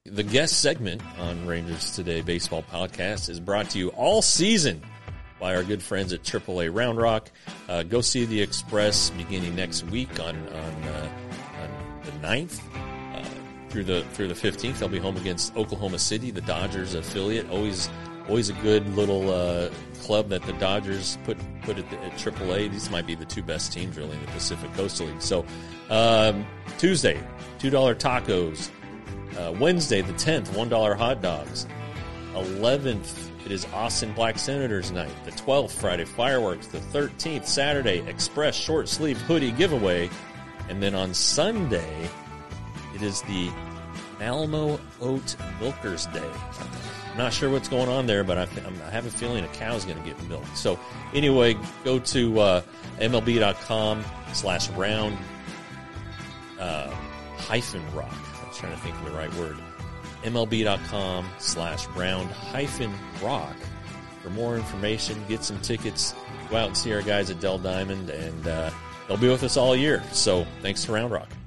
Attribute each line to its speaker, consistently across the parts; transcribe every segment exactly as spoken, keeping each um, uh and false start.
Speaker 1: The guest segment on Rangers Today Baseball Podcast is brought to you all season by our good friends at triple A Round Rock. Uh, go see the Express beginning next week on on, uh, on the ninth uh, through the through the fifteenth. They'll be home against Oklahoma City, the Dodgers affiliate. Always always a good little uh, club that the Dodgers put put at, the, at triple A. These might be the two best teams really in the Pacific Coastal League. So um, Tuesday, two dollar tacos. Uh, Wednesday, the tenth, one dollar hot dogs. eleventh, it is Austin Black Senators night. The twelfth, Friday, fireworks. The thirteenth, Saturday, Express short sleeve hoodie giveaway. And then on Sunday, it is the Alamo Oat Milkers Day. I'm not sure what's going on there, but I, I have a feeling a cow's going to get milked. So anyway, go to uh, MLB.com slash round uh, hyphen rock. Trying to think of the right word. MLB.com slash round hyphen rock for more information. Get some tickets. Go out and see our guys at Dell Diamond, and uh, they'll be with us all year. So thanks to Round Rock.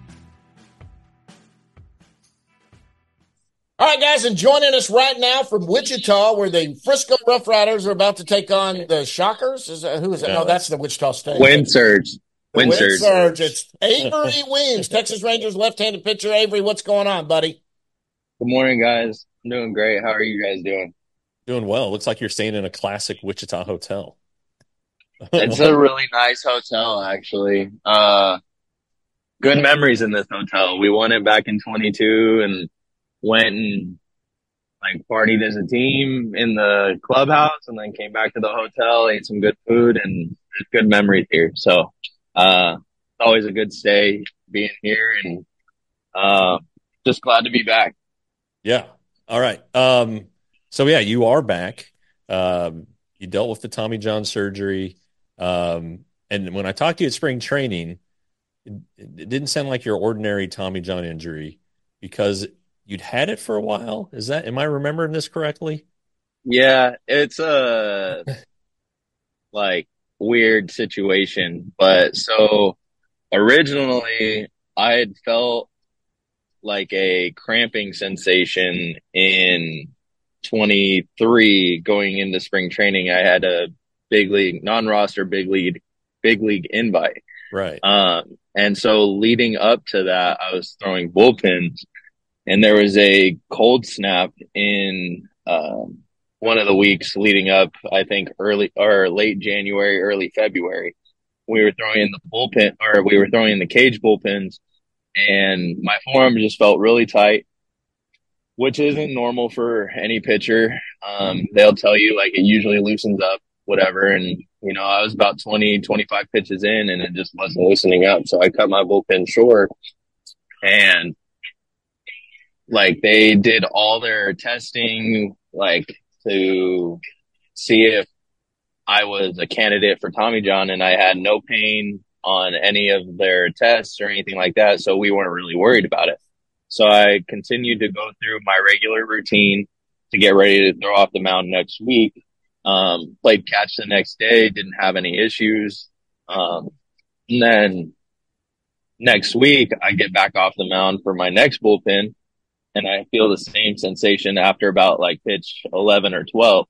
Speaker 2: All right, guys, and joining us right now from Wichita, where the Frisco Rough Riders are about to take on the Shockers. Is that, who is that? No, no that's the Wichita State.
Speaker 3: Wind Surge.
Speaker 2: Wind, Wind Surge. Surge. It's Avery Weems, Texas Rangers left-handed pitcher. Avery, what's going on, buddy?
Speaker 3: Good morning, guys. I'm doing great. How are you guys doing?
Speaker 1: Doing well. Looks like you're staying in a classic Wichita hotel.
Speaker 3: It's a really nice hotel, actually. Uh, good memories in this hotel. We won it back in twenty-two and went and like partied as a team in the clubhouse, and then came back to the hotel, ate some good food, and there's good memories here. So. Uh, it's always a good stay being here, and uh, just glad to be back.
Speaker 1: Yeah. All right. Um, so yeah, you are back. Um, you dealt with the Tommy John surgery. Um, and when I talked to you at spring training, it, it didn't sound like your ordinary Tommy John injury because you'd had it for a while. Is that, am I remembering this correctly?
Speaker 3: Yeah, it's a like, weird situation, but so originally I had felt like a cramping sensation in twenty-three going into spring training. I had a big league non-roster big league big league invite,
Speaker 1: right?
Speaker 3: Um, and so leading up to that, I was throwing bullpens, and there was a cold snap in um one of the weeks leading up, I think early or late January, early February. We were throwing in the bullpen, or we were throwing in the cage bullpens, and my forearm just felt really tight, which isn't normal for any pitcher. Um, they'll tell you like it usually loosens up, whatever. And, you know, I was about twenty, twenty-five pitches in, and it just wasn't loosening up. So I cut my bullpen short, and like they did all their testing, like, to see if I was a candidate for Tommy John, and I had no pain on any of their tests or anything like that. So we weren't really worried about it. So I continued to go through my regular routine to get ready to throw off the mound next week. Um, played catch the next day, didn't have any issues. Um, and then next week I get back off the mound for my next bullpen, and I feel the same sensation after about like pitch eleven or twelve.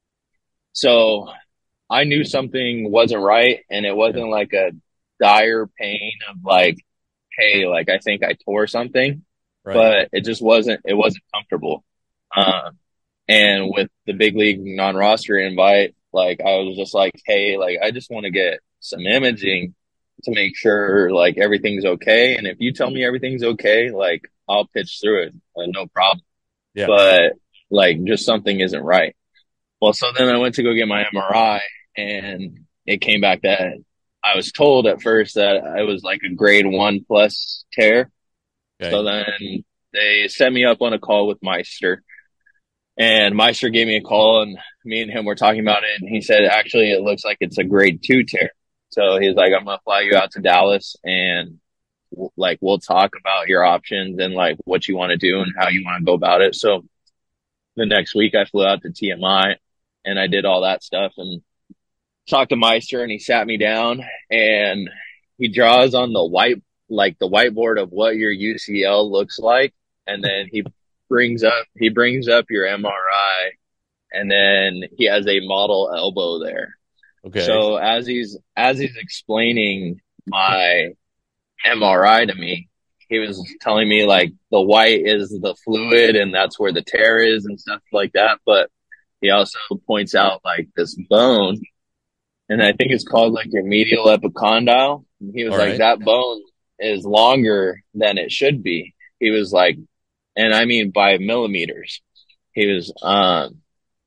Speaker 3: So I knew something wasn't right, and it wasn't like a dire pain of like, hey, like I think I tore something, right. But it just wasn't, it wasn't comfortable. Um, and with the big league non-roster invite, like I was just like, hey, like I just want to get some imaging to make sure like everything's okay. And if you tell me everything's okay, like I'll pitch through it. Uh, no problem. Yeah. But like just something isn't right. Well, so then I went to go get my M R I, and it came back that I was told at first that it was like a grade one plus tear. Okay. So then they set me up on a call with Meister, and Meister gave me a call, and me and him were talking about it. And he said, actually, it looks like it's a grade two tear. So he's like, I'm going to fly you out to Dallas, and like, we'll talk about your options and like what you want to do and how you want to go about it. So the next week I flew out to T M I, and I did all that stuff and talked to Meister, and he sat me down, and he draws on the white, like the whiteboard of what your U C L looks like. And then he brings up he brings up your M R I, and then he has a model elbow there.
Speaker 1: Okay.
Speaker 3: So as he's as he's explaining my M R I to me, he was telling me like the white is the fluid and that's where the tear is and stuff like that. But he also points out like this bone, and I think it's called like your medial epicondyle. And he was
Speaker 1: All
Speaker 3: like,
Speaker 1: right.
Speaker 3: that bone is longer than it should be. He was like, and I mean by millimeters. He was, um,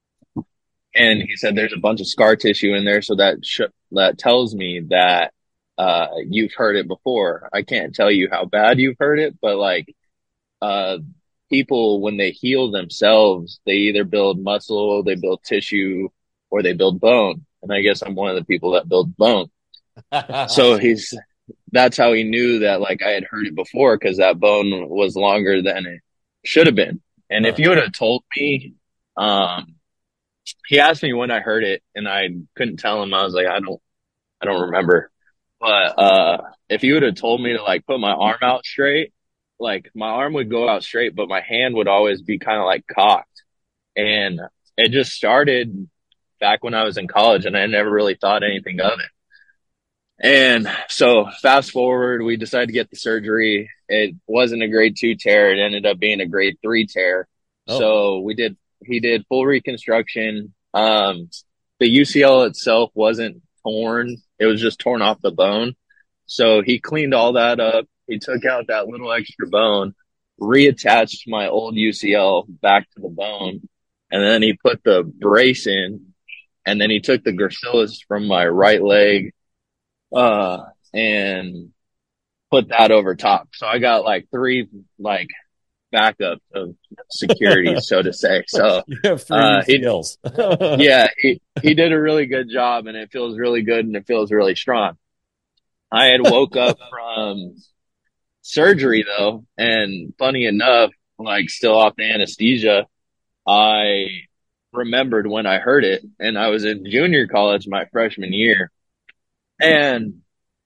Speaker 3: and he said there's a bunch of scar tissue in there, so that sh- that tells me that uh, you've heard it before. I can't tell you how bad you've heard it, but like uh, people when they heal themselves, they either build muscle, they build tissue, or they build bone. And I guess I'm one of the people that build bone. So he's that's how he knew that like I had heard it before, because that bone was longer than it should have been. And
Speaker 1: Huh.
Speaker 3: if you would have told me, um, he asked me when I heard it, and I couldn't tell him. I was like, I don't, I don't remember. But uh, if you would have told me to like put my arm out straight, like my arm would go out straight, but my hand would always be kind of like cocked. And it just started back when I was in college, and I never really thought anything of it. And so fast forward, we decided to get the surgery. It wasn't a grade two tear. It ended up being a grade three tear.
Speaker 1: Oh.
Speaker 3: So we did, he did full reconstruction. Um, the U C L itself wasn't torn. It was just torn off the bone. So he cleaned all that up. He took out that little extra bone, reattached my old U C L back to the bone. And then he put the brace in, and then he took the gracilis from my right leg, uh, and put that over top. So I got like three, like, backup of security, so to say. So
Speaker 1: You have three
Speaker 3: uh, he,
Speaker 1: U C Ls.
Speaker 3: yeah, he, he did a really good job, and it feels really good, and it feels really strong. I had woke up from surgery though, and funny enough, like still off the anesthesia, I remembered when I heard it, and I was in junior college my freshman year. And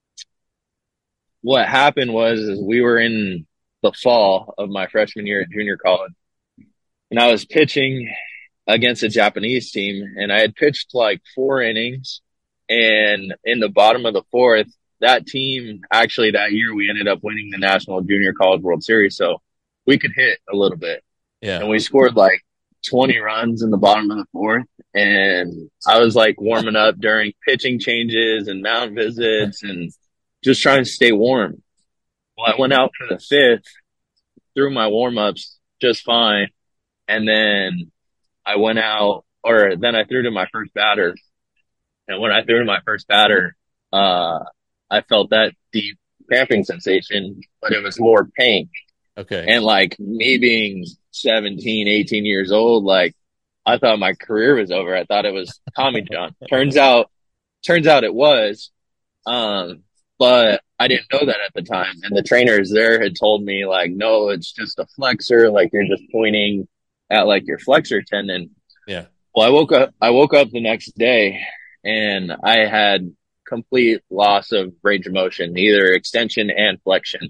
Speaker 3: what happened was is we were in the fall of my freshman year at junior college, and I was pitching against a Japanese team, and I had pitched like four innings, and in the bottom of the fourth, that team actually that year we ended up winning the National Junior College World Series, so we could hit a little bit.
Speaker 1: Yeah.
Speaker 3: And we scored like twenty runs in the bottom of the fourth, and I was like warming up during pitching changes and mound visits and just trying to stay warm. Well, I went out for the fifth, threw my warm-ups just fine, and then I went out, or then I threw to my first batter. And when I threw to my first batter, uh, I felt that deep cramping sensation, but it was more pain.
Speaker 1: Okay.
Speaker 3: And like me being seventeen, eighteen years old, like I thought my career was over. I thought it was Tommy John. Turns out, turns out it was. Um, but I didn't know that at the time. And the trainers there had told me like, no, it's just a flexor. Like you're just pointing at like your flexor tendon.
Speaker 1: Yeah.
Speaker 3: Well, I woke up, I woke up the next day, and I had complete loss of range of motion, either extension and flexion.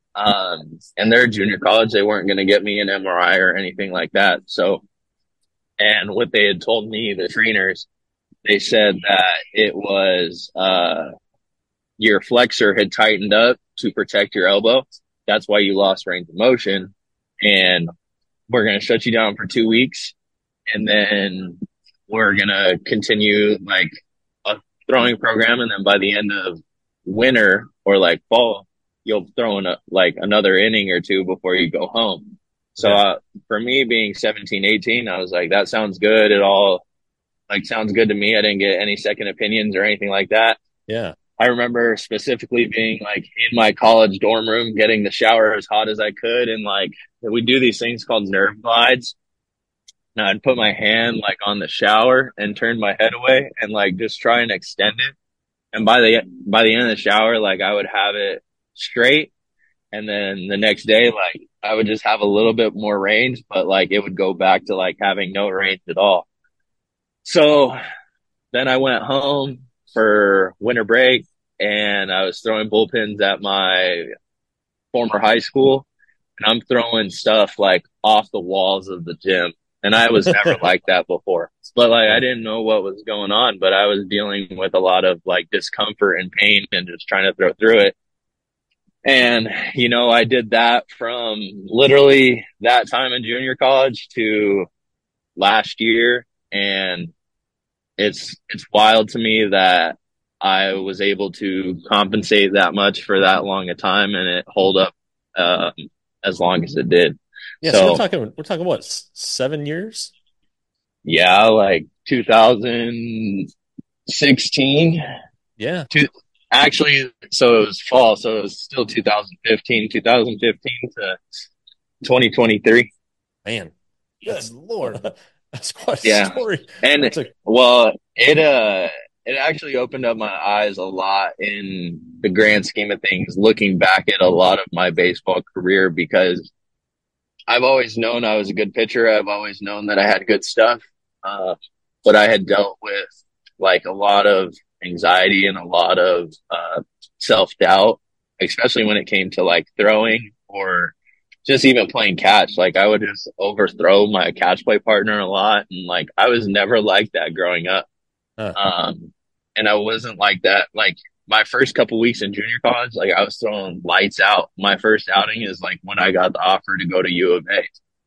Speaker 3: Um, and they're junior college. They weren't going to get me an M R I or anything like that. So, and what they had told me, the trainers, they said that it was, uh, your flexor had tightened up to protect your elbow. That's why you lost range of motion. And we're going to shut you down for two weeks. And then we're going to continue like a throwing program. And then by the end of winter or like fall, you'll throw in a, like another inning or two before you go home. So,
Speaker 1: Yeah.
Speaker 3: uh, for me being seventeen, eighteen, I was like, that sounds good. It all like sounds good to me. I didn't get any second opinions or anything like that.
Speaker 1: Yeah.
Speaker 3: I remember specifically being like in my college dorm room, getting the shower as hot as I could. And like, we do these things called nerve glides. And I'd put my hand like on the shower and turn my head away and like just try and extend it. And by the, by the end of the shower, like I would have it straight. And then the next day, like I would just have a little bit more range, but like it would go back to like having no range at all. So then I went home for winter break, and I was throwing bullpens at my former high school. and I'm throwing stuff like off the walls of the gym. And I was never like that before. But like, I didn't know what was going on, but I was dealing with a lot of like discomfort and pain and just trying to throw through it. And, you know, I did that from literally that time in junior college to last year. And it's, it's wild to me that I was able to compensate that much for that long a time and it hold up, um, as long as it did.
Speaker 1: Yeah,
Speaker 3: so,
Speaker 1: so we're talking, we're talking what, seven years?
Speaker 3: Yeah, like two thousand sixteen.
Speaker 1: Yeah.
Speaker 3: Two, actually, so it was fall, so it was still two thousand fifteen, two thousand fifteen to twenty twenty-three.
Speaker 1: Man,
Speaker 2: good Lord,
Speaker 1: that's quite a
Speaker 3: yeah.
Speaker 1: story.
Speaker 3: And
Speaker 1: a-
Speaker 3: well, it uh, it actually opened up my eyes a lot in the grand scheme of things, looking back at a lot of my baseball career, because I've always known I was a good pitcher. I've always known that I had good stuff. Uh, but I had dealt with like a lot of anxiety and a lot of uh, self-doubt, especially when it came to like throwing or just even playing catch. Like I would just overthrow my catch play partner a lot. And like, I was never like that growing up.
Speaker 1: Huh.
Speaker 3: Um, and I wasn't like that. Like my first couple weeks in junior college, like I was throwing lights out. My first outing is like when I got the offer to go to U of A.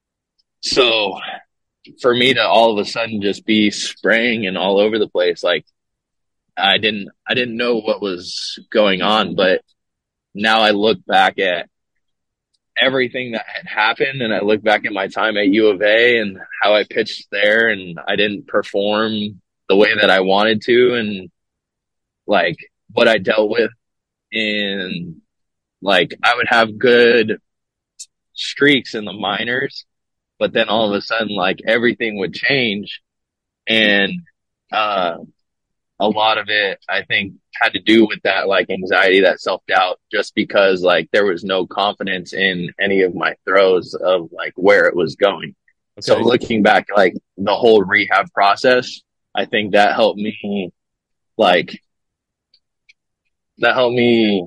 Speaker 3: So for me to all of a sudden just be spraying and all over the place, like I didn't, I didn't know what was going on, but now I look back at everything that had happened and I look back at my time at U of A and how I pitched there and I didn't perform the way that I wanted to and like what I dealt with in like I would have good streaks in the minors, but then all of a sudden like everything would change and uh a lot of it I think had to do with that like anxiety, that self-doubt, just because like there was no confidence in any of my throws of like where it was going. Okay. So looking back, like the whole rehab process, I think that helped me like that helped me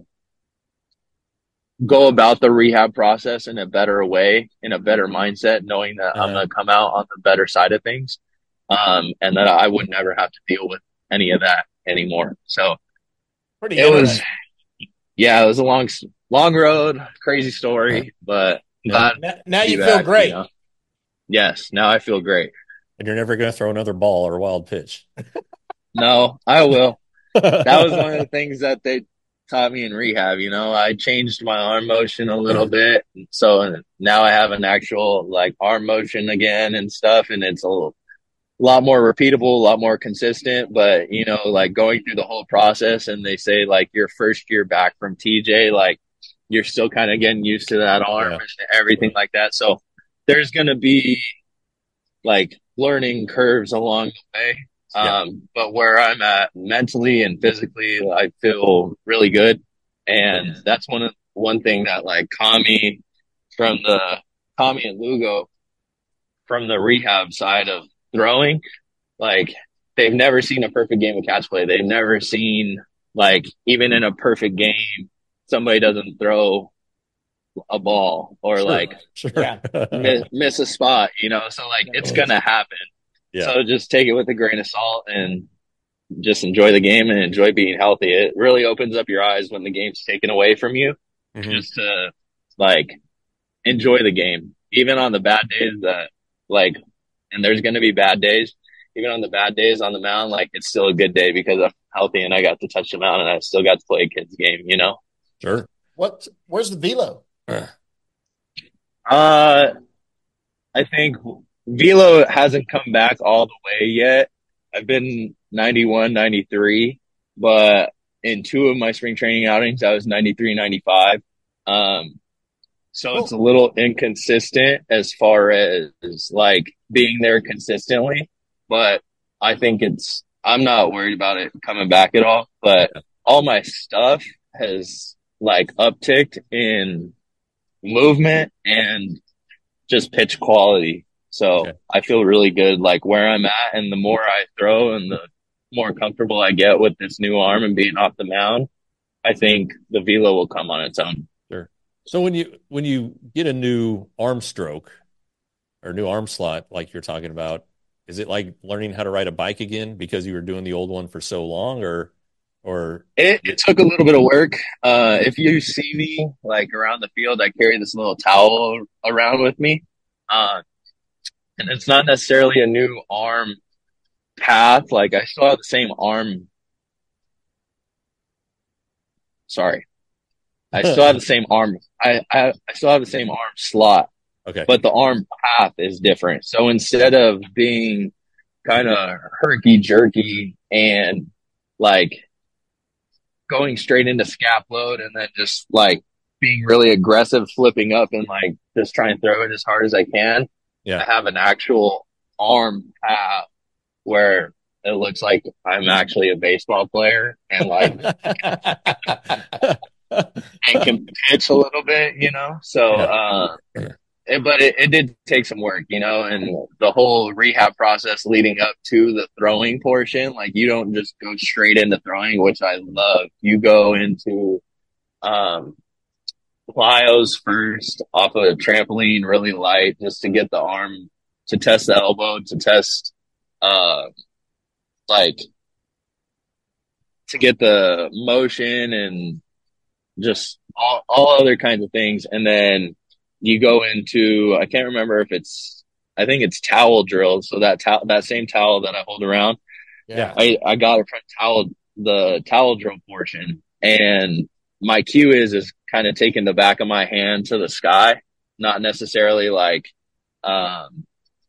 Speaker 3: go about the rehab process in a better way, in a better mindset, knowing that uh-huh. I'm going to come out on the better side of things. Um, and that I would never have to deal with any of that anymore. So
Speaker 2: Pretty
Speaker 3: it was, yeah, it was a long, long road, crazy story, but
Speaker 2: yeah. now, now you back, feel great. You know?
Speaker 3: Yes. Now I feel great.
Speaker 1: And you're never going to throw another ball or wild pitch.
Speaker 3: No, I will. That was one of the things that they taught me in rehab. You know, I changed my arm motion a little bit. So now I have an actual like arm motion again and stuff. And it's a little, a lot more repeatable, a lot more consistent, but you know, like going through the whole process and they say like your first year back from T J, like you're still kind of getting used to that arm yeah. and everything like that. So there's going to be like learning curves along the way. Yeah. Um, but where I'm at mentally and physically, I feel really good. And yeah. that's one of one thing that like Kami from the Kami and Lugo from the rehab side of throwing, like they've never seen a perfect game of catch play. They've never seen like even in a perfect game, somebody doesn't throw a ball or sure. like
Speaker 1: sure.
Speaker 3: miss, miss a spot, you know? So like it's going to happen. Yeah. So just take it with a grain of salt and just enjoy the game and enjoy being healthy. It really opens up your eyes when the game's taken away from you, mm-hmm. just to like enjoy the game, even on the bad days that like, and there's going to be bad days, even on the bad days on the mound, like it's still a good day because I'm healthy and I got to touch the mound and I still got to play a kid's game, you know?
Speaker 1: Sure.
Speaker 2: What, where's the velo?
Speaker 3: Uh, I think velo hasn't come back all the way yet. I've been ninety-one, ninety-three, but in two of my spring training outings, I was ninety-three, ninety-five. Um, so it's a little inconsistent as far as like being there consistently, but I think it's, I'm not worried about it coming back at all, but all my stuff has like upticked in movement and just pitch quality. So okay. I feel really good, like where I'm at, and the more I throw and the more comfortable I get with this new arm and being off the mound, I think the velo will come on its own.
Speaker 1: Sure. So when you when you get a new arm stroke or new arm slot, like you're talking about, is it like learning how to ride a bike again because you were doing the old one for so long, or or
Speaker 3: It, it took a little bit of work. Uh, if you see me like around the field, I carry this little towel around with me. Uh, and it's not necessarily a new arm path. Like I still have the same arm. Sorry. I still have the same arm. I, I, I still have the same arm slot,
Speaker 1: okay,
Speaker 3: but the arm path is different. So instead of being kind of herky jerky and like going straight into scap load and then just like being really aggressive, flipping up and like just try and throw it as hard as I can.
Speaker 1: yeah,
Speaker 3: I have an actual arm path where it looks like I'm actually a baseball player and like and can pitch a little bit, you know? So,
Speaker 1: yeah,
Speaker 3: uh, it, but it, it did take some work, you know, and the whole rehab process leading up to the throwing portion, like you don't just go straight into throwing, which I love. You go into, um, plyos first off of a trampoline, really light, just to get the arm, to test the elbow, to test, uh, like, to get the motion and just all, all other kinds of things. And then you go into, I can't remember if it's, I think it's towel drills. So that towel, that same towel that I hold around,
Speaker 1: yeah.
Speaker 3: I, I got it from towel, the towel drill portion. And my cue is, is kind of taking the back of my hand to the sky, not necessarily like, um,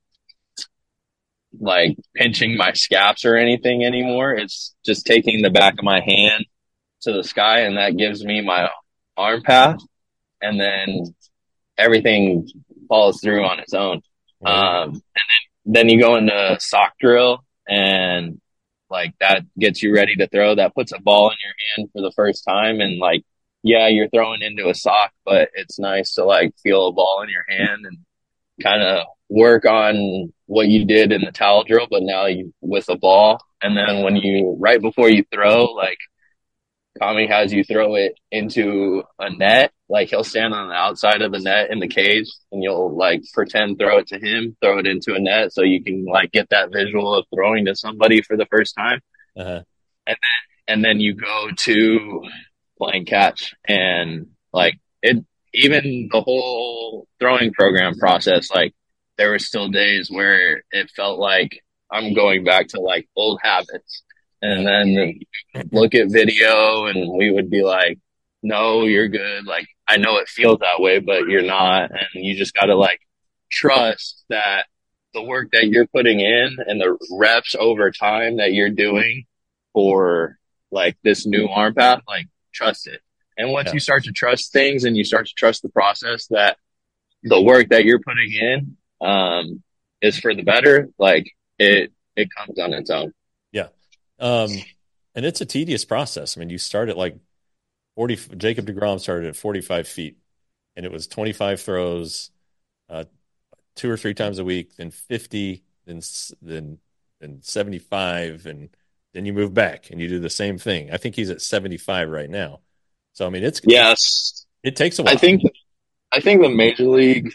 Speaker 3: like pinching my scaps or anything anymore. It's just taking the back of my hand to the sky, and that gives me my arm path, and then everything follows through on its own. Um, and then, then you go into sock drill, and like that gets you ready to throw. That puts a ball in your hand for the first time, and like, yeah, you're throwing into a sock, but it's nice to like feel a ball in your hand and kind of work on what you did in the towel drill, but now you with a ball. And then when you, right before you throw, like Kami has you throw it into a net, like he'll stand on the outside of the net in the cage and you'll like pretend throw it to him, throw it into a net so you can like get that visual of throwing to somebody for the first time.
Speaker 1: Uh-huh.
Speaker 3: And then, and then you go to playing catch, and like it, even the whole throwing program process, like there were still days where it felt like I'm going back to like old habits. And then look at video and we would be like, no, you're good. Like, I know it feels that way, but you're not. And you just got to like trust that the work that you're putting in and the reps over time that you're doing for like this new arm path, like trust it. And once
Speaker 1: Yeah.
Speaker 3: you start to trust things and you start to trust the process that the work that you're putting in, um, is for the better, like it, it comes on its own.
Speaker 1: Yeah. Um, and it's a tedious process. I mean, you start at like forty, Jacob deGrom started at forty-five feet and it was twenty-five throws, uh, two or three times a week, then fifty, then, then, then seventy-five. And then you move back and you do the same thing. I think he's at seventy-five right now. So, I mean, it's,
Speaker 3: yes,
Speaker 1: it takes a while.
Speaker 3: I think, I think the major league,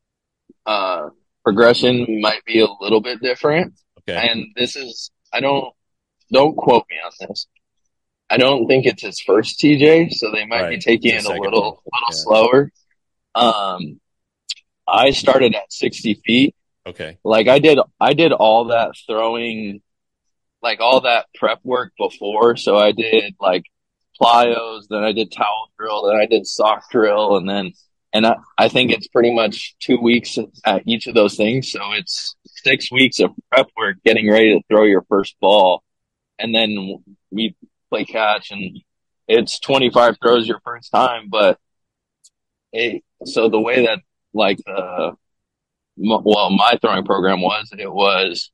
Speaker 3: uh, progression might be a little bit different.
Speaker 1: Okay.
Speaker 3: And this is, I don't, don't quote me on this. I don't think it's his first T J, so they might
Speaker 1: Right.
Speaker 3: be taking
Speaker 1: It's
Speaker 3: it
Speaker 1: the
Speaker 3: a
Speaker 1: second
Speaker 3: little,
Speaker 1: one.
Speaker 3: little
Speaker 1: Yeah.
Speaker 3: slower. Um, I started at sixty feet.
Speaker 1: Okay.
Speaker 3: Like I did, I did all that throwing, like all that prep work before. So I did like plyos, then I did towel drill, then I did sock drill, and then, and I, I think it's pretty much two weeks at each of those things. So it's six weeks of prep work getting ready to throw your first ball. And then we play catch and it's twenty-five throws your first time. But it, so the way that like the, well, my throwing program was, it was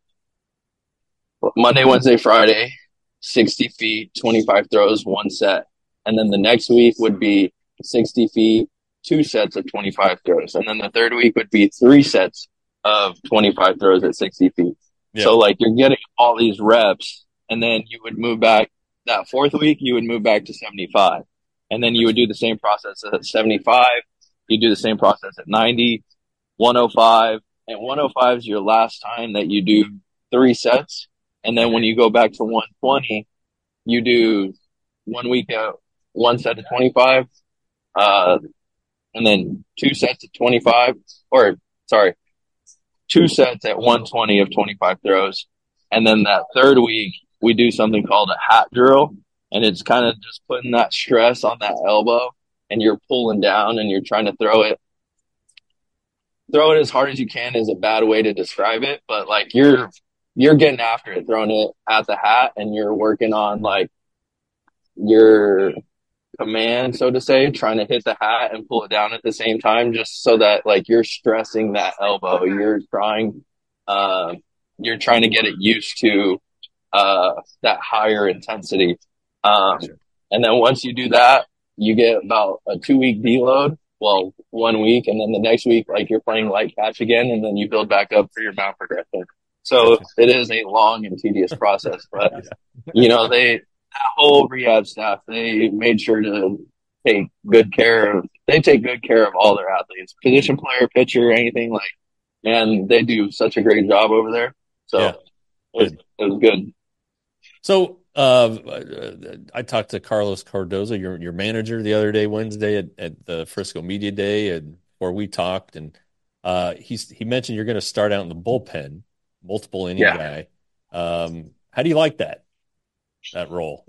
Speaker 3: Monday, Wednesday, Friday, sixty feet, twenty-five throws, one set. And then the next week would be sixty feet, two sets of twenty-five throws. And then the third week would be three sets of twenty-five throws at sixty feet.
Speaker 1: Yeah.
Speaker 3: So like you're getting all these reps, and then you would move back that fourth week, you would move back to seventy-five. And then you would do the same process at seventy-five, you do the same process at ninety, one oh five, and one oh five is your last time that you do three sets. And then when you go back to one twenty, you do one week at one set of twenty-five, uh, and then two sets of twenty-five, or sorry, two sets at one twenty of twenty-five throws. And then that third week, we do something called a hat drill. And it's kind of just putting that stress on that elbow, and you're pulling down and you're trying to throw it. Throw it as hard as you can is a bad way to describe it, but like you're you're getting after it, throwing it at the hat, and you're working on like your command, so to say, trying to hit the hat and pull it down at the same time, just so that like you're stressing that elbow. You're trying, uh, you're trying to get it used to uh, that higher intensity. Um, and then once you do that, you get about a two week deload. Well, one week, and then the next week, like you're playing light catch again, and then you build back up for your mount progression. So it is a long and tedious process, but you know, they, that whole rehab staff, they made sure to take good care of, they take good care of all their athletes, position player, pitcher, anything like, and they do such a great job over there. So
Speaker 1: yeah.
Speaker 3: it, was, it was good.
Speaker 1: So, uh, I talked to Carlos Cardozo, your your manager, the other day, Wednesday at, at the Frisco Media Day, and where we talked, and uh, he's he mentioned you're going to start out in the bullpen, multiple inning yeah. guy. Um, how do you like that that role?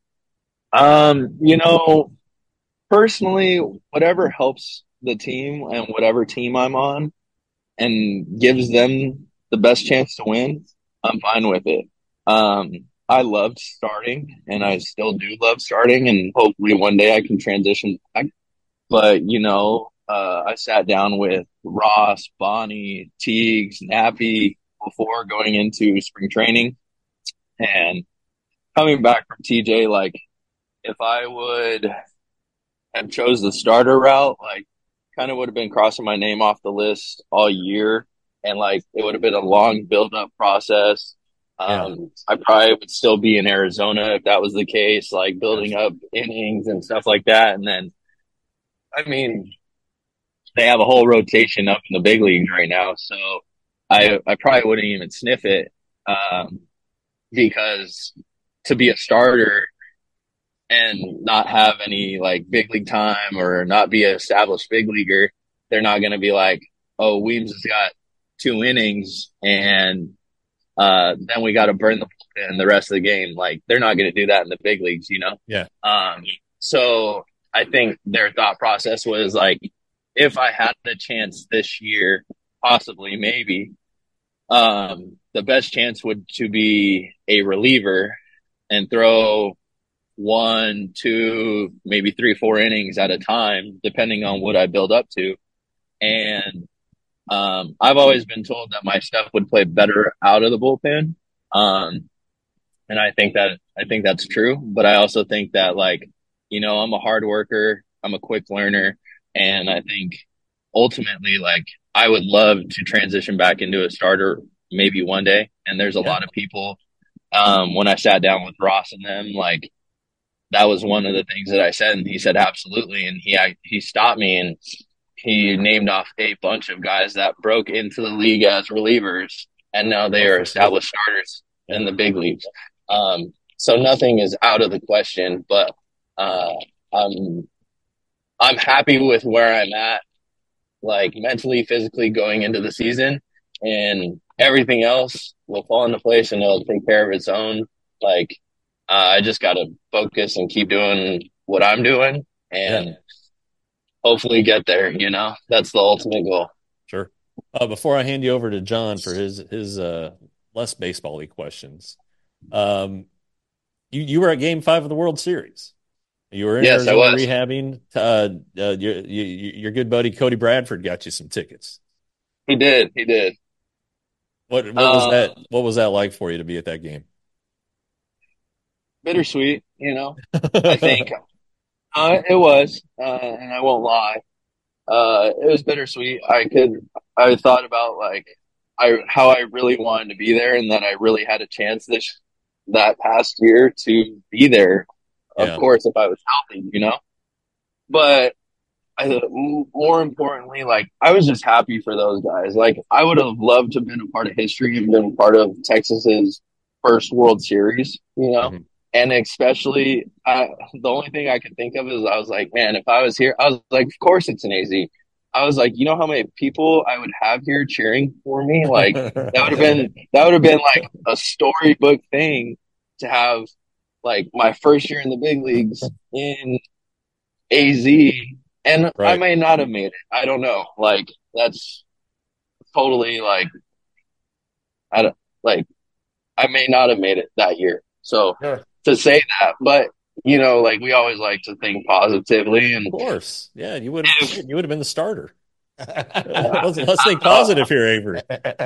Speaker 3: Um, you know, personally, whatever helps the team and whatever team I'm on, and gives them the best chance to win, I'm fine with it. Um, I loved starting, and I still do love starting, and hopefully one day I can transition back. But, you know, uh, I sat down with Ross, Bonnie, Teagues, Nappy before going into spring training, and coming back from T J, like, if I would have chose the starter route, like, kind of would have been crossing my name off the list all year, and, like, it would have been a long build-up process. Um, yeah. I probably would still be in Arizona if that was the case, like building up innings and stuff like that. And then, I mean, they have a whole rotation up in the big leagues right now. So I, I probably wouldn't even sniff it, um, because to be a starter and not have any like big league time or not be an established big leaguer, they're not going to be like, oh, Weems has got two innings and Uh, then we got to burn the bullpen the rest of the game. Like, they're not going to do that in the big leagues, you know?
Speaker 1: Yeah.
Speaker 3: Um, so I think their thought process was like, if I had the chance this year, possibly, maybe, um, the best chance would to be a reliever and throw one, two, maybe three, four innings at a time, depending on what I build up to. And Um, I've always been told that my stuff would play better out of the bullpen. Um, and I think that, I think that's true, but I also think that like, you know, I'm a hard worker. I'm a quick learner. And I think ultimately, like I would love to transition back into a starter maybe one day. And there's a yeah. lot of people, um, when I sat down with Ross and them, like that was one of the things that I said. And he said, absolutely. And he, I, he stopped me and he named off a bunch of guys that broke into the league as relievers, and now they are established starters in the big leagues. Um, so nothing is out of the question, but uh, I'm I'm happy with where I'm at, like mentally, physically going into the season, and everything else will fall into place and it'll take care of its own. Like uh, I just got to focus and keep doing what I'm doing, and yeah. hopefully get there, you know, that's the ultimate goal.
Speaker 1: Sure. Uh, before I hand you over to John for his, his, uh, less baseball-y questions. Um, you, you were at game five of the World Series. You were in
Speaker 3: yes,
Speaker 1: Arizona
Speaker 3: I was.
Speaker 1: rehabbing. Uh, uh, your, your, your good buddy, Cody Bradford, got you some tickets.
Speaker 3: He did. He did.
Speaker 1: What, what was uh, that? What was that like for you to be at that game?
Speaker 3: Bittersweet, you know, I think. Uh, it was, uh, and I won't lie. Uh, it was bittersweet. I could, I thought about like, I, how I really wanted to be there and that I really had a chance this, that past year to be there. Of yeah. course, if I was healthy, you know, but I, more importantly, like I was just happy for those guys. Like I would have loved to have been a part of history and been part of Texas's first World Series, you know.
Speaker 1: Mhm.
Speaker 3: And especially, I, the only thing I could think of is I was like, man, if I was here, I was like, of course it's an A Z. I was like, you know how many people I would have here cheering for me? Like that would have been that would have been like a storybook thing to have like my first year in the big leagues in A Z, and I
Speaker 1: Right.
Speaker 3: may not have made it. I don't know. Like that's totally like I don't like I may not have made it that year. So
Speaker 2: Sure.
Speaker 3: to say that, but you know, like we always like to think positively,
Speaker 1: Of
Speaker 3: and
Speaker 1: course. Yeah, you would have
Speaker 3: if
Speaker 1: you would have been the starter.
Speaker 3: uh,
Speaker 1: Let's, let's
Speaker 3: I
Speaker 1: think
Speaker 3: don't know,
Speaker 1: positive here, Avery.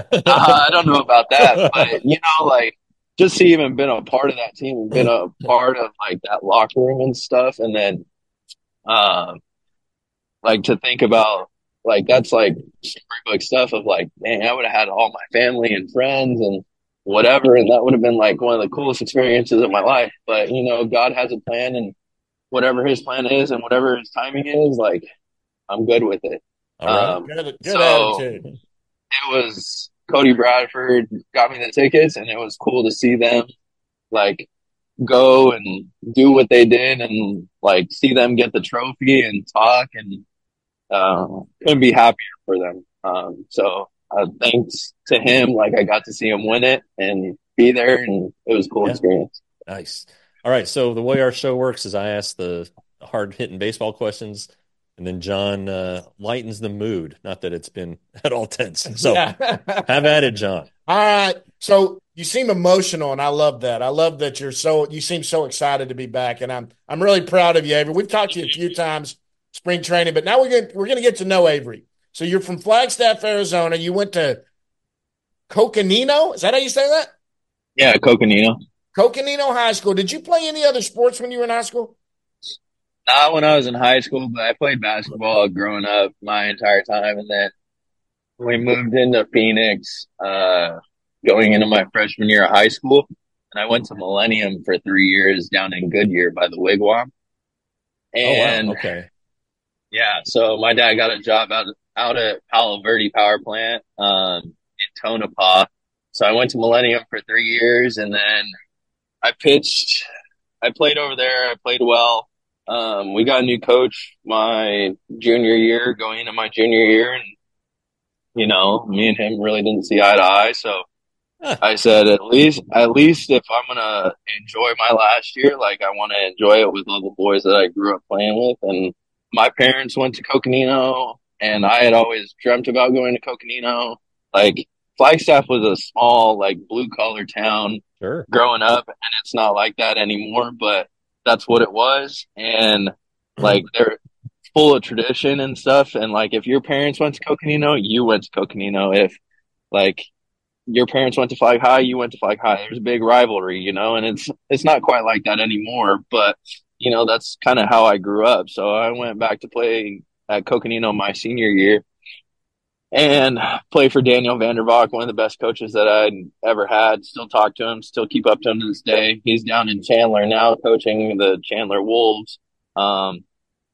Speaker 3: I don't know about that, but you know, like just to even been a part of that team and been a part of like that locker room and stuff, and then um like to think about like that's like storybook stuff of like, man, I would have had all my family and friends and whatever, and that would have been like one of the coolest experiences of my life. But you know, God has a plan, and whatever His plan is, and whatever His timing is, like I'm good with it.
Speaker 1: All right.
Speaker 3: Um,
Speaker 2: Good, good
Speaker 3: so
Speaker 2: attitude.
Speaker 3: it was Cody Bradford got me the tickets, and it was cool to see them like go and do what they did, and like see them get the trophy and talk and uh, couldn't be happier for them. Um, so uh, thanks to him, like I got to see him win it and be there, and it was a cool
Speaker 1: Yeah.
Speaker 3: experience.
Speaker 1: Nice. All right. So the way our show works is I ask the hard hitting baseball questions, and then John uh, lightens the mood. Not that it's been at all tense. So
Speaker 2: Yeah.
Speaker 1: have at it, John.
Speaker 2: All right. So you seem emotional, and I love that. I love that you're so you seem so excited to be back, and I'm I'm really proud of you, Avery. We've talked to you a few times spring training, but now we're going we're going to get to know Avery. So you're from Flagstaff, Arizona. You went to Coconino. Is that how you say that?
Speaker 3: Yeah, Coconino.
Speaker 2: Coconino High School. Did you play any other sports when you were in high school?
Speaker 3: Not when I was in high school, but I played basketball growing up my entire time, and then we moved into Phoenix, uh, going into my freshman year of high school, and I went to Millennium for three years down in Goodyear by the Wigwam.
Speaker 1: Oh wow.
Speaker 3: And
Speaker 1: Okay.
Speaker 3: yeah, so my dad got a job out out at Palo Verde Power Plant um, in Tonopah. So I went to Millennium for three years, and then I pitched. I played over there. I played well. Um, we got a new coach my junior year, going into my junior year, and you know, me and him really didn't see eye to eye. So
Speaker 1: Huh.
Speaker 3: I said, at least, at least if I'm gonna enjoy my last year, like I want to enjoy it with all the boys that I grew up playing with. And my parents went to Coconino, and I had always dreamt about going to Coconino. Like Flagstaff was a small, like blue collar town
Speaker 1: Sure.
Speaker 3: growing up, and it's not like that anymore. But that's what it was, and like they're full of tradition and stuff. And like if your parents went to Coconino, you went to Coconino. If like your parents went to Flag High, you went to Flag High. There's a big rivalry, you know, and it's it's not quite like that anymore. But you know, that's kind of how I grew up. So I went back to play at Coconino my senior year and play for Daniel Vandervalk, one of the best coaches that I'd ever had. Still talk to him, still keep up to him to this day. He's down in Chandler now, coaching the Chandler Wolves. Um,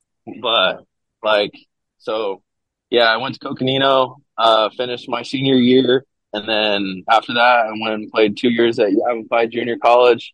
Speaker 3: but like, so yeah, I went to Coconino, uh, finished my senior year. And then after that, I went and played two years at Yavapai Junior College,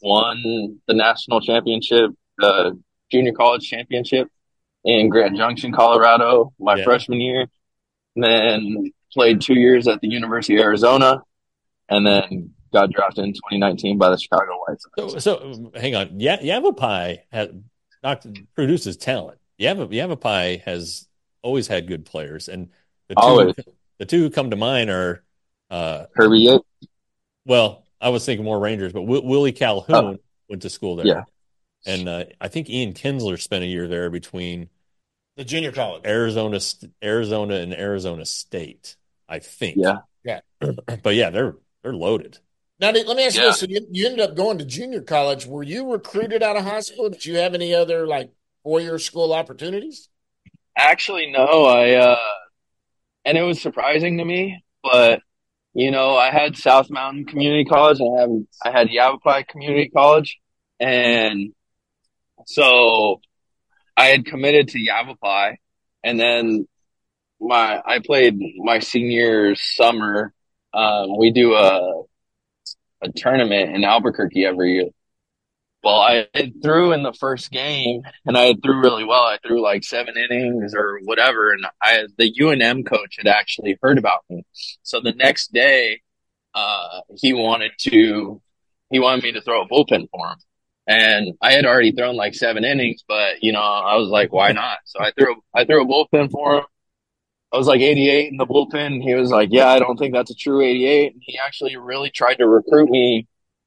Speaker 3: won the national championship, the junior college championship in Grand Junction, Colorado, my
Speaker 1: Yeah.
Speaker 3: freshman year. And then played two years at the University of Arizona, and then got drafted in twenty nineteen by the Chicago White Sox.
Speaker 1: So, so hang on. Yeah, Yavapai has not produces talent. Yav Yavapai has always had good players, and the two
Speaker 3: Always.
Speaker 1: the two who come to mind are uh,
Speaker 3: Kirby Yates.
Speaker 1: well, I was thinking more Rangers, but w Willie Calhoun
Speaker 3: Oh.
Speaker 1: went to school there,
Speaker 3: Yeah.
Speaker 1: and uh, I think Ian Kinsler spent a year there between
Speaker 2: The junior college.
Speaker 1: Arizona, St- Arizona, and Arizona State. I think.
Speaker 3: Yeah.
Speaker 2: Yeah.
Speaker 1: But yeah, they're they're loaded.
Speaker 2: Now, let me ask you
Speaker 3: Yeah.
Speaker 2: this. So you, you ended up going to junior college. Were you recruited out of high school? Did you have any other like four-year school opportunities?
Speaker 3: Actually, no. I uh, and it was surprising to me, but you know, I had South Mountain Community College, and I have I had Yavapai Community College, and so I had committed to Yavapai, and then my I played my senior summer. Um, we do a a tournament in Albuquerque every year. Well, I threw in the first game, and I threw really well. I threw like seven innings or whatever, and I the U N M coach had actually heard about me. So the next day, uh, he wanted to he wanted me to throw a bullpen for him, and I had already thrown like seven innings, but you know I was like, why not? So I threw I threw a bullpen for him. I was like eighty-eight in the bullpen. He was like, yeah, I don't think that's a true eighty-eight. And he actually really tried to recruit me.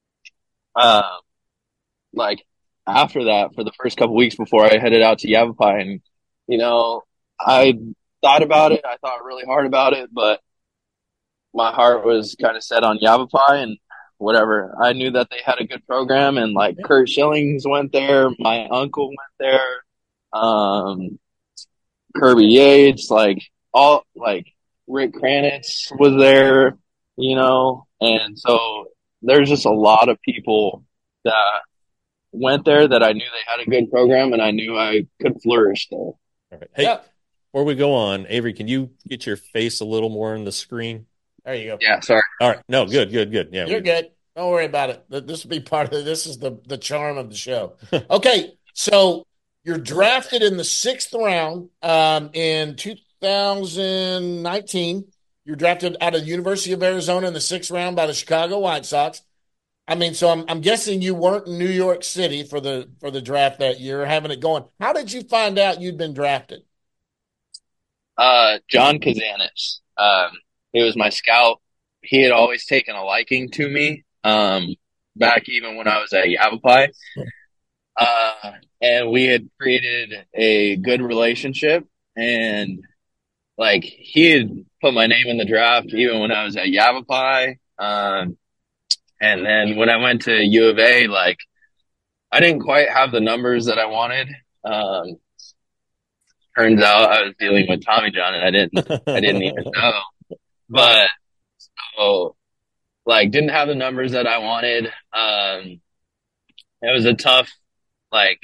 Speaker 3: Uh, like after that for the first couple weeks before I headed out to Yavapai. And, you know, I thought about it. I thought really hard about it, but my heart was kind of set on Yavapai and whatever. I knew that they had a good program, and like Kurt Schillings went there. My uncle went there. Um, Kirby Yates, like all, like Rick Kranitz was there, you know, and so there's just a lot of people that went there that I knew they had a good program, and I knew I could flourish there.
Speaker 1: All right. Hey,
Speaker 2: Yeah.
Speaker 1: before we go on, Avery, can you get your face a little more on the screen?
Speaker 2: There you go.
Speaker 3: Yeah, sorry.
Speaker 1: All right. No, good, good, good. Yeah,
Speaker 2: You're
Speaker 1: we-
Speaker 2: good. Don't worry about it. Th- This will be part of this is the the charm of the show. Okay, so you're drafted in the sixth round um, in two thousand nineteen. You're drafted out of the University of Arizona in the sixth round by the Chicago White Sox. I mean, so I'm I'm guessing you weren't in New York City for the for the draft that year, having it going. How did you find out you'd been drafted?
Speaker 3: Uh, John Kazanis, um, he was my scout. He had always taken a liking to me, um, back even when I was at Yavapai. Uh, and we had created a good relationship, and like he had put my name in the draft even when I was at Yavapai. Um, and then when I went to U of A, like I didn't quite have the numbers that I wanted. Um, turns out I was dealing with Tommy John, and I didn't, I didn't even know. But so, like, didn't have the numbers that I wanted. Um, it was a tough, like,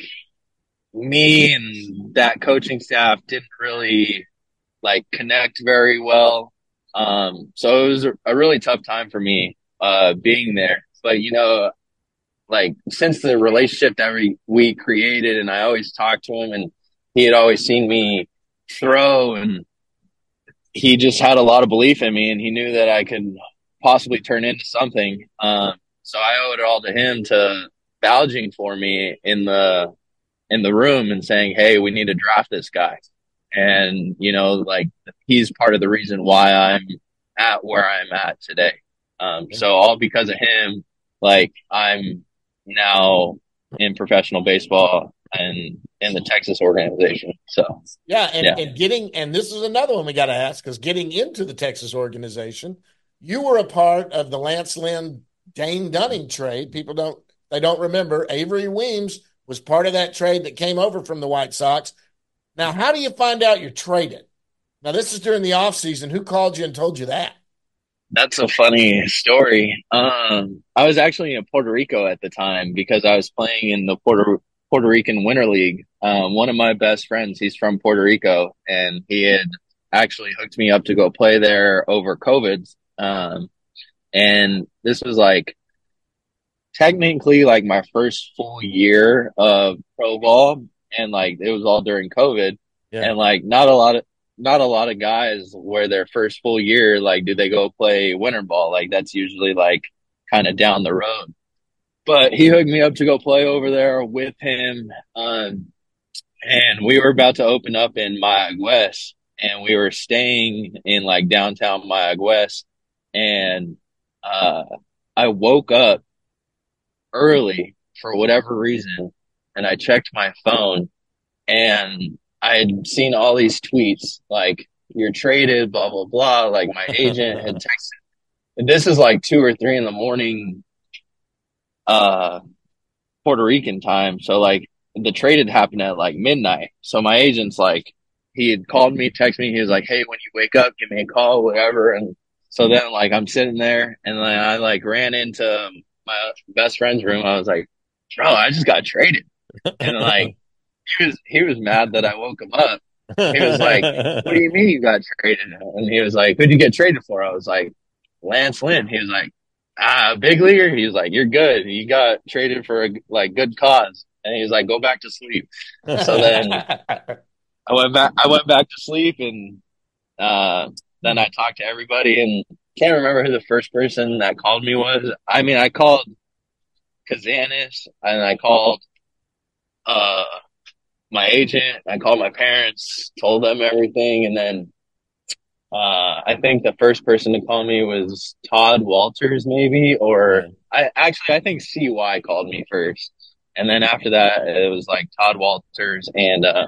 Speaker 3: me and that coaching staff didn't really like connect very well. Um, so it was a, a really tough time for me, uh, being there. But, you know, like since the relationship that we, we created, and I always talked to him, and he had always seen me throw, and he just had a lot of belief in me, and he knew that I could possibly turn into something. Um, so I owe it all to him to vouching for me in the in the room and saying, "Hey, we need to draft this guy." And you know, like he's part of the reason why I'm at where I'm at today. Um, so all because of him, like I'm now in professional baseball and in the Texas organization. So
Speaker 2: Yeah, and,
Speaker 3: Yeah.
Speaker 2: and getting and this is another one we got to ask, because getting into the Texas organization, you were a part of the Lance Lynn Dane Dunning trade. People don't they don't remember Avery Weems was part of that trade that came over from the White Sox. Now, how do you find out you're traded? Now, this is during the offseason. Who called you and told you that?
Speaker 3: that's a funny story. Um, I was actually in Puerto Rico at the time because I was playing in the Puerto Puerto Rican Winter League. Um, one of my best friends, he's from Puerto Rico, and he had actually hooked me up to go play there over COVID. Um, and this was like technically like my first full year of pro ball, and like it was all during COVID.
Speaker 1: Yeah.
Speaker 3: And like not a lot of not a lot of guys where their first full year, like, do they go play winter ball? Like that's usually like kind of down the road. But he hooked me up to go play over there with him. Um, and we were about to open up in Mayagüez, and we were staying in like downtown Mayagüez. And uh, I woke up early for whatever reason, and I checked my phone, and I had seen all these tweets like, "You're traded, blah, blah, blah." Like my agent had texted. And this is like two or three in the morning, uh, Puerto Rican time. So like the trade had happened at like midnight. So my agent's like, he had called me, texted me. He was like, "Hey, when you wake up, give me a call, whatever." And so then like I'm sitting there, and then I like ran into my best friend's room. I was like, "Bro, I just got traded." And like, he was, he was mad that I woke him up. He was like, "What do you mean you got traded?" And he was like, "Who'd you get traded for?" I was like, "Lance Lynn." He was like, "Ah, big leaguer." He was like, "You're good. You got traded for a like good cause." And he was like, "Go back to sleep." So then I went back. I went back to sleep, and uh, then I talked to everybody, and can't remember who the first person that called me was. I mean, I called Kazanis, and I called uh my agent. I called my parents, told them everything, and then uh, I think the first person to call me was Todd Walters, maybe, or
Speaker 1: Yeah.
Speaker 3: I actually I think C Y called me first, and then after that it was like Todd Walters and uh,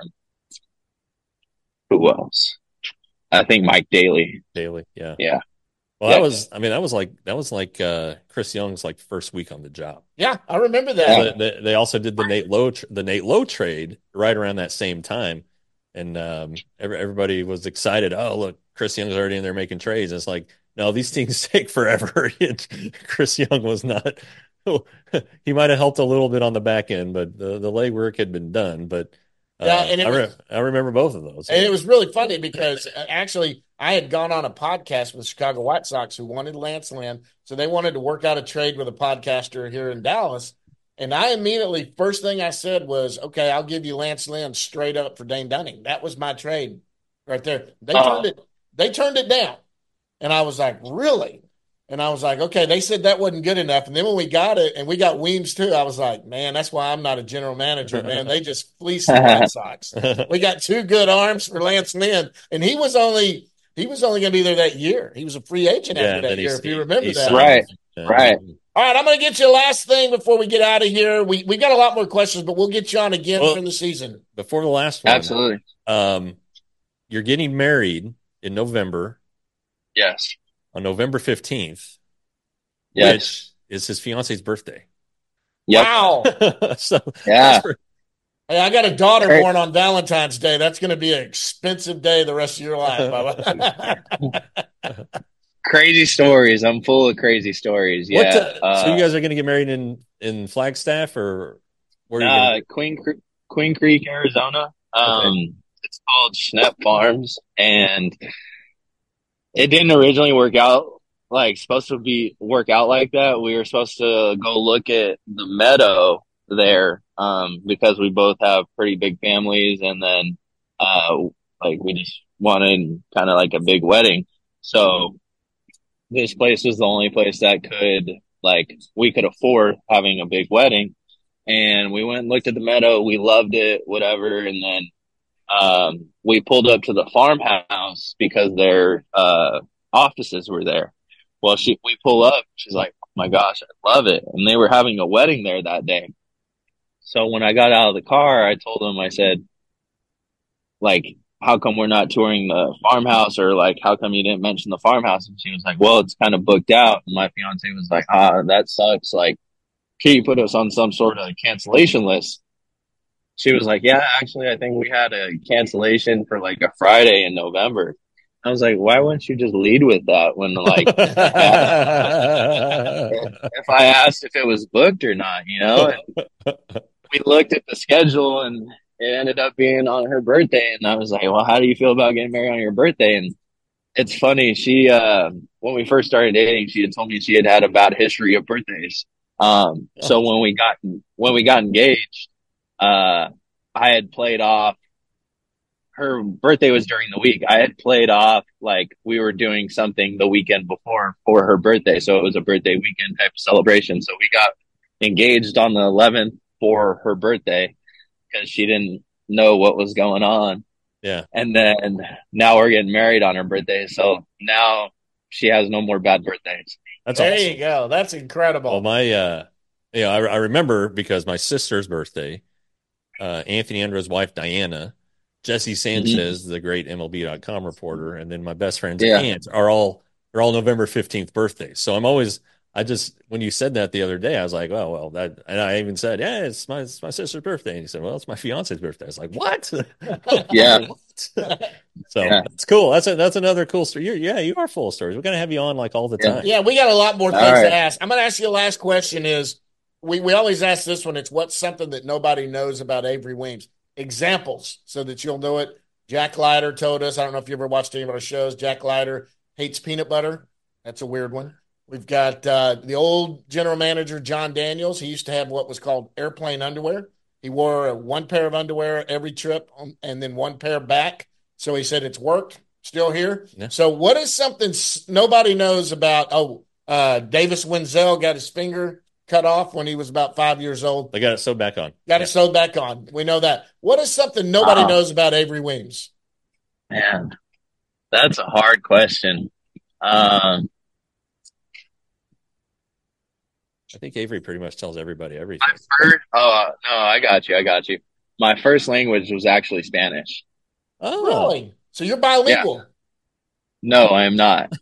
Speaker 3: who else? I think Mike Daly.
Speaker 1: Daily, yeah.
Speaker 3: Yeah,
Speaker 1: Well, that
Speaker 3: yeah,
Speaker 1: was, I mean, that was like, that was like uh, Chris Young's like first week on the job.
Speaker 2: Yeah, I remember that.
Speaker 3: yeah.
Speaker 1: They, they also did the Nate Lowe, tr- the Nate Lowe trade right around that same time. And um, every, everybody was excited. Oh, look, Chris Young's already in there making trades. And it's like, no, these things take forever. It- Chris Young was not, he might have helped a little bit on the back end, but the, the legwork had been done. But
Speaker 2: Yeah,
Speaker 1: uh,
Speaker 2: and it
Speaker 1: I, re-
Speaker 2: was
Speaker 1: I remember both of those.
Speaker 2: and it was really funny because uh, actually I had gone on a podcast with the Chicago White Sox who wanted Lance Lynn, so they wanted to work out a trade with a podcaster here in Dallas. And I immediately, first thing I said was, "Okay, I'll give you Lance Lynn straight up for Dane Dunning." That was my trade right there. They turned
Speaker 3: Uh,
Speaker 2: it, they turned it down, and I was like, "Really?" And I was like, "Okay." They said that wasn't good enough, and then when we got it, and we got Weems too, I was like, "Man, that's why I'm not a general manager, man. They just fleeced the White Sox. We got two good arms for Lance Lynn, and he was only he was only going to be there that year. He was a free agent
Speaker 1: Yeah,
Speaker 2: after
Speaker 1: and
Speaker 2: that
Speaker 1: then he,
Speaker 2: year, if you
Speaker 1: he,
Speaker 2: remember
Speaker 1: he
Speaker 2: that.
Speaker 1: signed.
Speaker 3: right,
Speaker 1: Yeah.
Speaker 3: right.
Speaker 2: All right, I'm going to get you a last thing before we get out of here. We we got a lot more questions, but we'll get you on again
Speaker 1: Well,
Speaker 2: from the season.
Speaker 1: Before the last one,
Speaker 3: Absolutely.
Speaker 1: um, you're getting married in November,
Speaker 3: Yes,
Speaker 1: on November fifteenth,
Speaker 3: yes,
Speaker 1: which is his fiance's birthday.
Speaker 3: yep,
Speaker 2: Wow.
Speaker 1: So
Speaker 3: yeah.
Speaker 1: that's for-
Speaker 2: Hey, I got a daughter
Speaker 3: Great.
Speaker 2: born on Valentine's Day. That's going to be an expensive day the rest of your life, Bubba.
Speaker 3: Crazy stories. I'm full of crazy stories.
Speaker 1: what?
Speaker 3: Yeah.
Speaker 1: the- so
Speaker 3: Uh,
Speaker 1: you guys are going to get married in in Flagstaff, or where are you
Speaker 3: uh,
Speaker 1: going?
Speaker 3: Queen Cre- Queen Creek, Arizona. Um, it's called Schnepp Farms, and it didn't originally work out like supposed to be work out like that. We were supposed to go look at the meadow there, um, because we both have pretty big families, and then uh, like we just wanted kind of like a big wedding. So this place was the only place that could like we could afford having a big wedding. And we went and looked at the meadow. We loved it, whatever. And then um, we pulled up to the farmhouse because their uh, offices were there. Well, she we pull up. She's like, "Oh my gosh, I love it!" And they were having a wedding there that day. So when I got out of the car, I told them, I said, like, how come we're not touring the farmhouse, or like, how come you didn't mention the farmhouse? And she was like, well, it's kind of booked out. And my fiance was like, ah, that sucks. Like, can you put us on some sort of cancellation list? She was like, yeah, actually, I think we had a cancellation for like a Friday in November. I was like, why wouldn't you just lead with that when like, if I asked if it was booked or not, you know? And we looked at the schedule and it ended up being on her birthday. And I was like, well, how do you feel about getting married on your birthday? And it's funny. She, uh, when we first started dating, she had told me she had had a bad history of birthdays. Um, so when we got, when we got engaged, uh, I had played off, her birthday was during the week. I had played off like we were doing something the weekend before for her birthday. So it was a birthday weekend type of celebration. So we got engaged on the eleventh for her birthday because she didn't know what was going on.
Speaker 1: Yeah.
Speaker 3: And then now we're getting married on her birthday. So now she has no more bad birthdays.
Speaker 1: That's
Speaker 2: There
Speaker 1: awesome.
Speaker 2: you go. That's incredible.
Speaker 1: Well, my, uh, you know, I, I remember because my sister's birthday, uh, Anthony Andrews' wife, Diana, Jesse Sanchez, the great M L B dot com reporter, and then my best friend's
Speaker 3: Yeah.
Speaker 1: aunt are all, they're all November fifteenth birthdays. So I'm always, I just, when you said that the other day, I was like, oh, well, that, and I even said, yeah, it's my, it's my sister's birthday. And he said, well, it's my fiance's birthday. I was like, what?
Speaker 3: Yeah.
Speaker 1: What? So
Speaker 3: Yeah.
Speaker 1: that's cool. That's a, that's another cool story. You're, yeah, you are full of stories. We're going to have you on like all the
Speaker 3: Yeah.
Speaker 1: time.
Speaker 2: Yeah, we got a lot more
Speaker 3: All
Speaker 2: things
Speaker 3: right.
Speaker 2: to ask. I'm going to ask you the last question is, we, we always ask this one. It's what's something that nobody knows about Avery Weems? Examples so that you'll know it. Jack Leiter told us, I don't know if you ever watched any of our shows, Jack Leiter hates peanut butter. That's a weird one. We've got uh, the old general manager, John Daniels. He used to have what was called airplane underwear. He wore one pair of underwear every trip and then one pair back. So he said it's worked, still here. Yeah. So what is something nobody knows about? Oh, uh, Davis Wenzel got his finger cut off when he was about five years old.
Speaker 1: They got it sewed back on.
Speaker 2: Got yeah. it sewed back on. We know that. What is something nobody uh, knows about Avery Weems?
Speaker 3: Man, that's a hard question. Um,
Speaker 1: I think Avery pretty much tells everybody everything.
Speaker 3: I've heard. Oh no, I got you. I got you. My first language was actually Spanish.
Speaker 2: Oh, really? So you're bilingual?
Speaker 3: Yeah. No, I am not.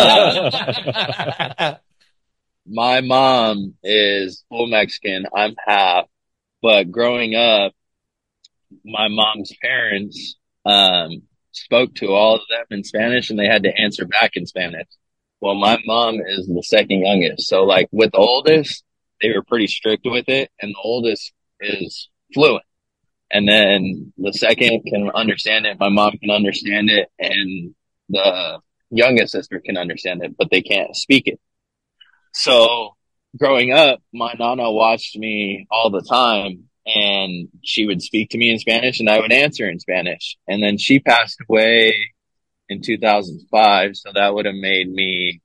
Speaker 3: uh, my mom is full Mexican. I'm half. But growing up, my mom's parents um, spoke to all of them in Spanish, and they had to answer back in Spanish. Well, my mom is the second youngest. So, like, with the oldest, they were pretty strict with it, and the oldest is fluent. And then the second can understand it. My mom can understand it, and the youngest sister can understand it, but they can't speak it. So, growing up, my nana watched me all the time, and she would speak to me in Spanish, and I would answer in Spanish. And then she passed away in two thousand five, so that would have made me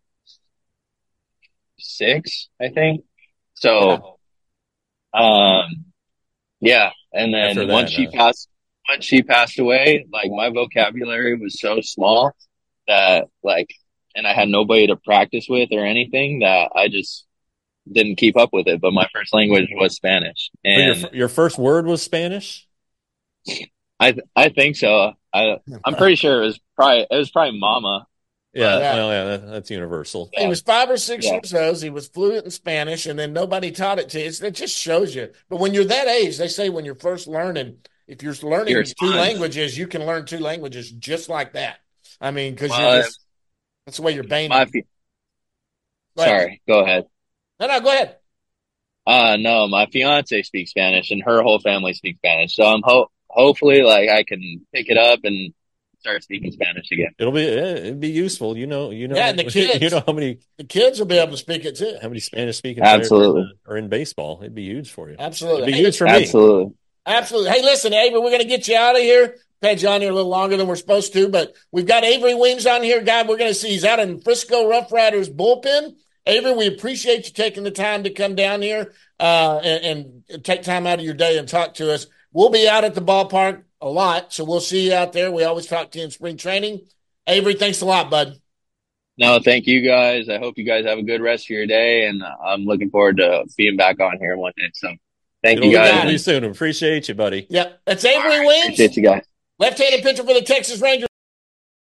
Speaker 3: six, I think. So, um, yeah. And then that, once she uh, passed, once she passed away, like my vocabulary was so small that like, and I had nobody to practice with or anything that I just didn't keep up with it. But my first language was Spanish. And
Speaker 1: your, your first word was Spanish?
Speaker 3: I I think so. I I'm pretty sure it was probably it was probably mama.
Speaker 1: Yeah, yeah. Well, yeah, that, that's universal.
Speaker 2: He was five or six yeah. years old. He was fluent in Spanish, and then nobody taught it to you. It just shows you. But when you're that age, they say when you're first learning, if you're learning you're two languages, you can learn two languages just like that. I mean, because well, you're just, that's the way your brain.
Speaker 3: My, go sorry, go ahead.
Speaker 2: No, no, go ahead.
Speaker 3: Uh no, my fiance speaks Spanish, and her whole family speaks Spanish. So I'm ho- hopefully, like, I can pick it up and start speaking Spanish again.
Speaker 1: It'll be it'd be useful, you know. You know,
Speaker 2: yeah, and the kids,
Speaker 1: you know how many
Speaker 2: the kids will be able to speak it too.
Speaker 1: How many Spanish speaking
Speaker 3: absolutely
Speaker 1: players are in baseball? It'd be huge for you.
Speaker 2: Absolutely,
Speaker 1: it'd be
Speaker 2: hey,
Speaker 1: huge for
Speaker 3: absolutely.
Speaker 1: me.
Speaker 2: Absolutely. Hey, listen, Avery, we're going to get you out of here. Had you on here a little longer than we're supposed to, but we've got Avery Weems on here, guy. We're going to see he's out in Frisco Rough Riders bullpen. Avery, we appreciate you taking the time to come down here uh, and, and take time out of your day and talk to us. We'll be out at the ballpark a lot, so we'll see you out there. We always talk to you in spring training. Avery, thanks a lot, bud.
Speaker 3: No, thank you guys. I hope you guys have a good rest of your day, and I'm looking forward to being back on here one day. So thank It'll you guys.
Speaker 1: See you soon. Appreciate you, buddy.
Speaker 2: Yep. That's Avery Weems.
Speaker 3: Appreciate you guys.
Speaker 2: Left-handed pitcher for the Texas Rangers.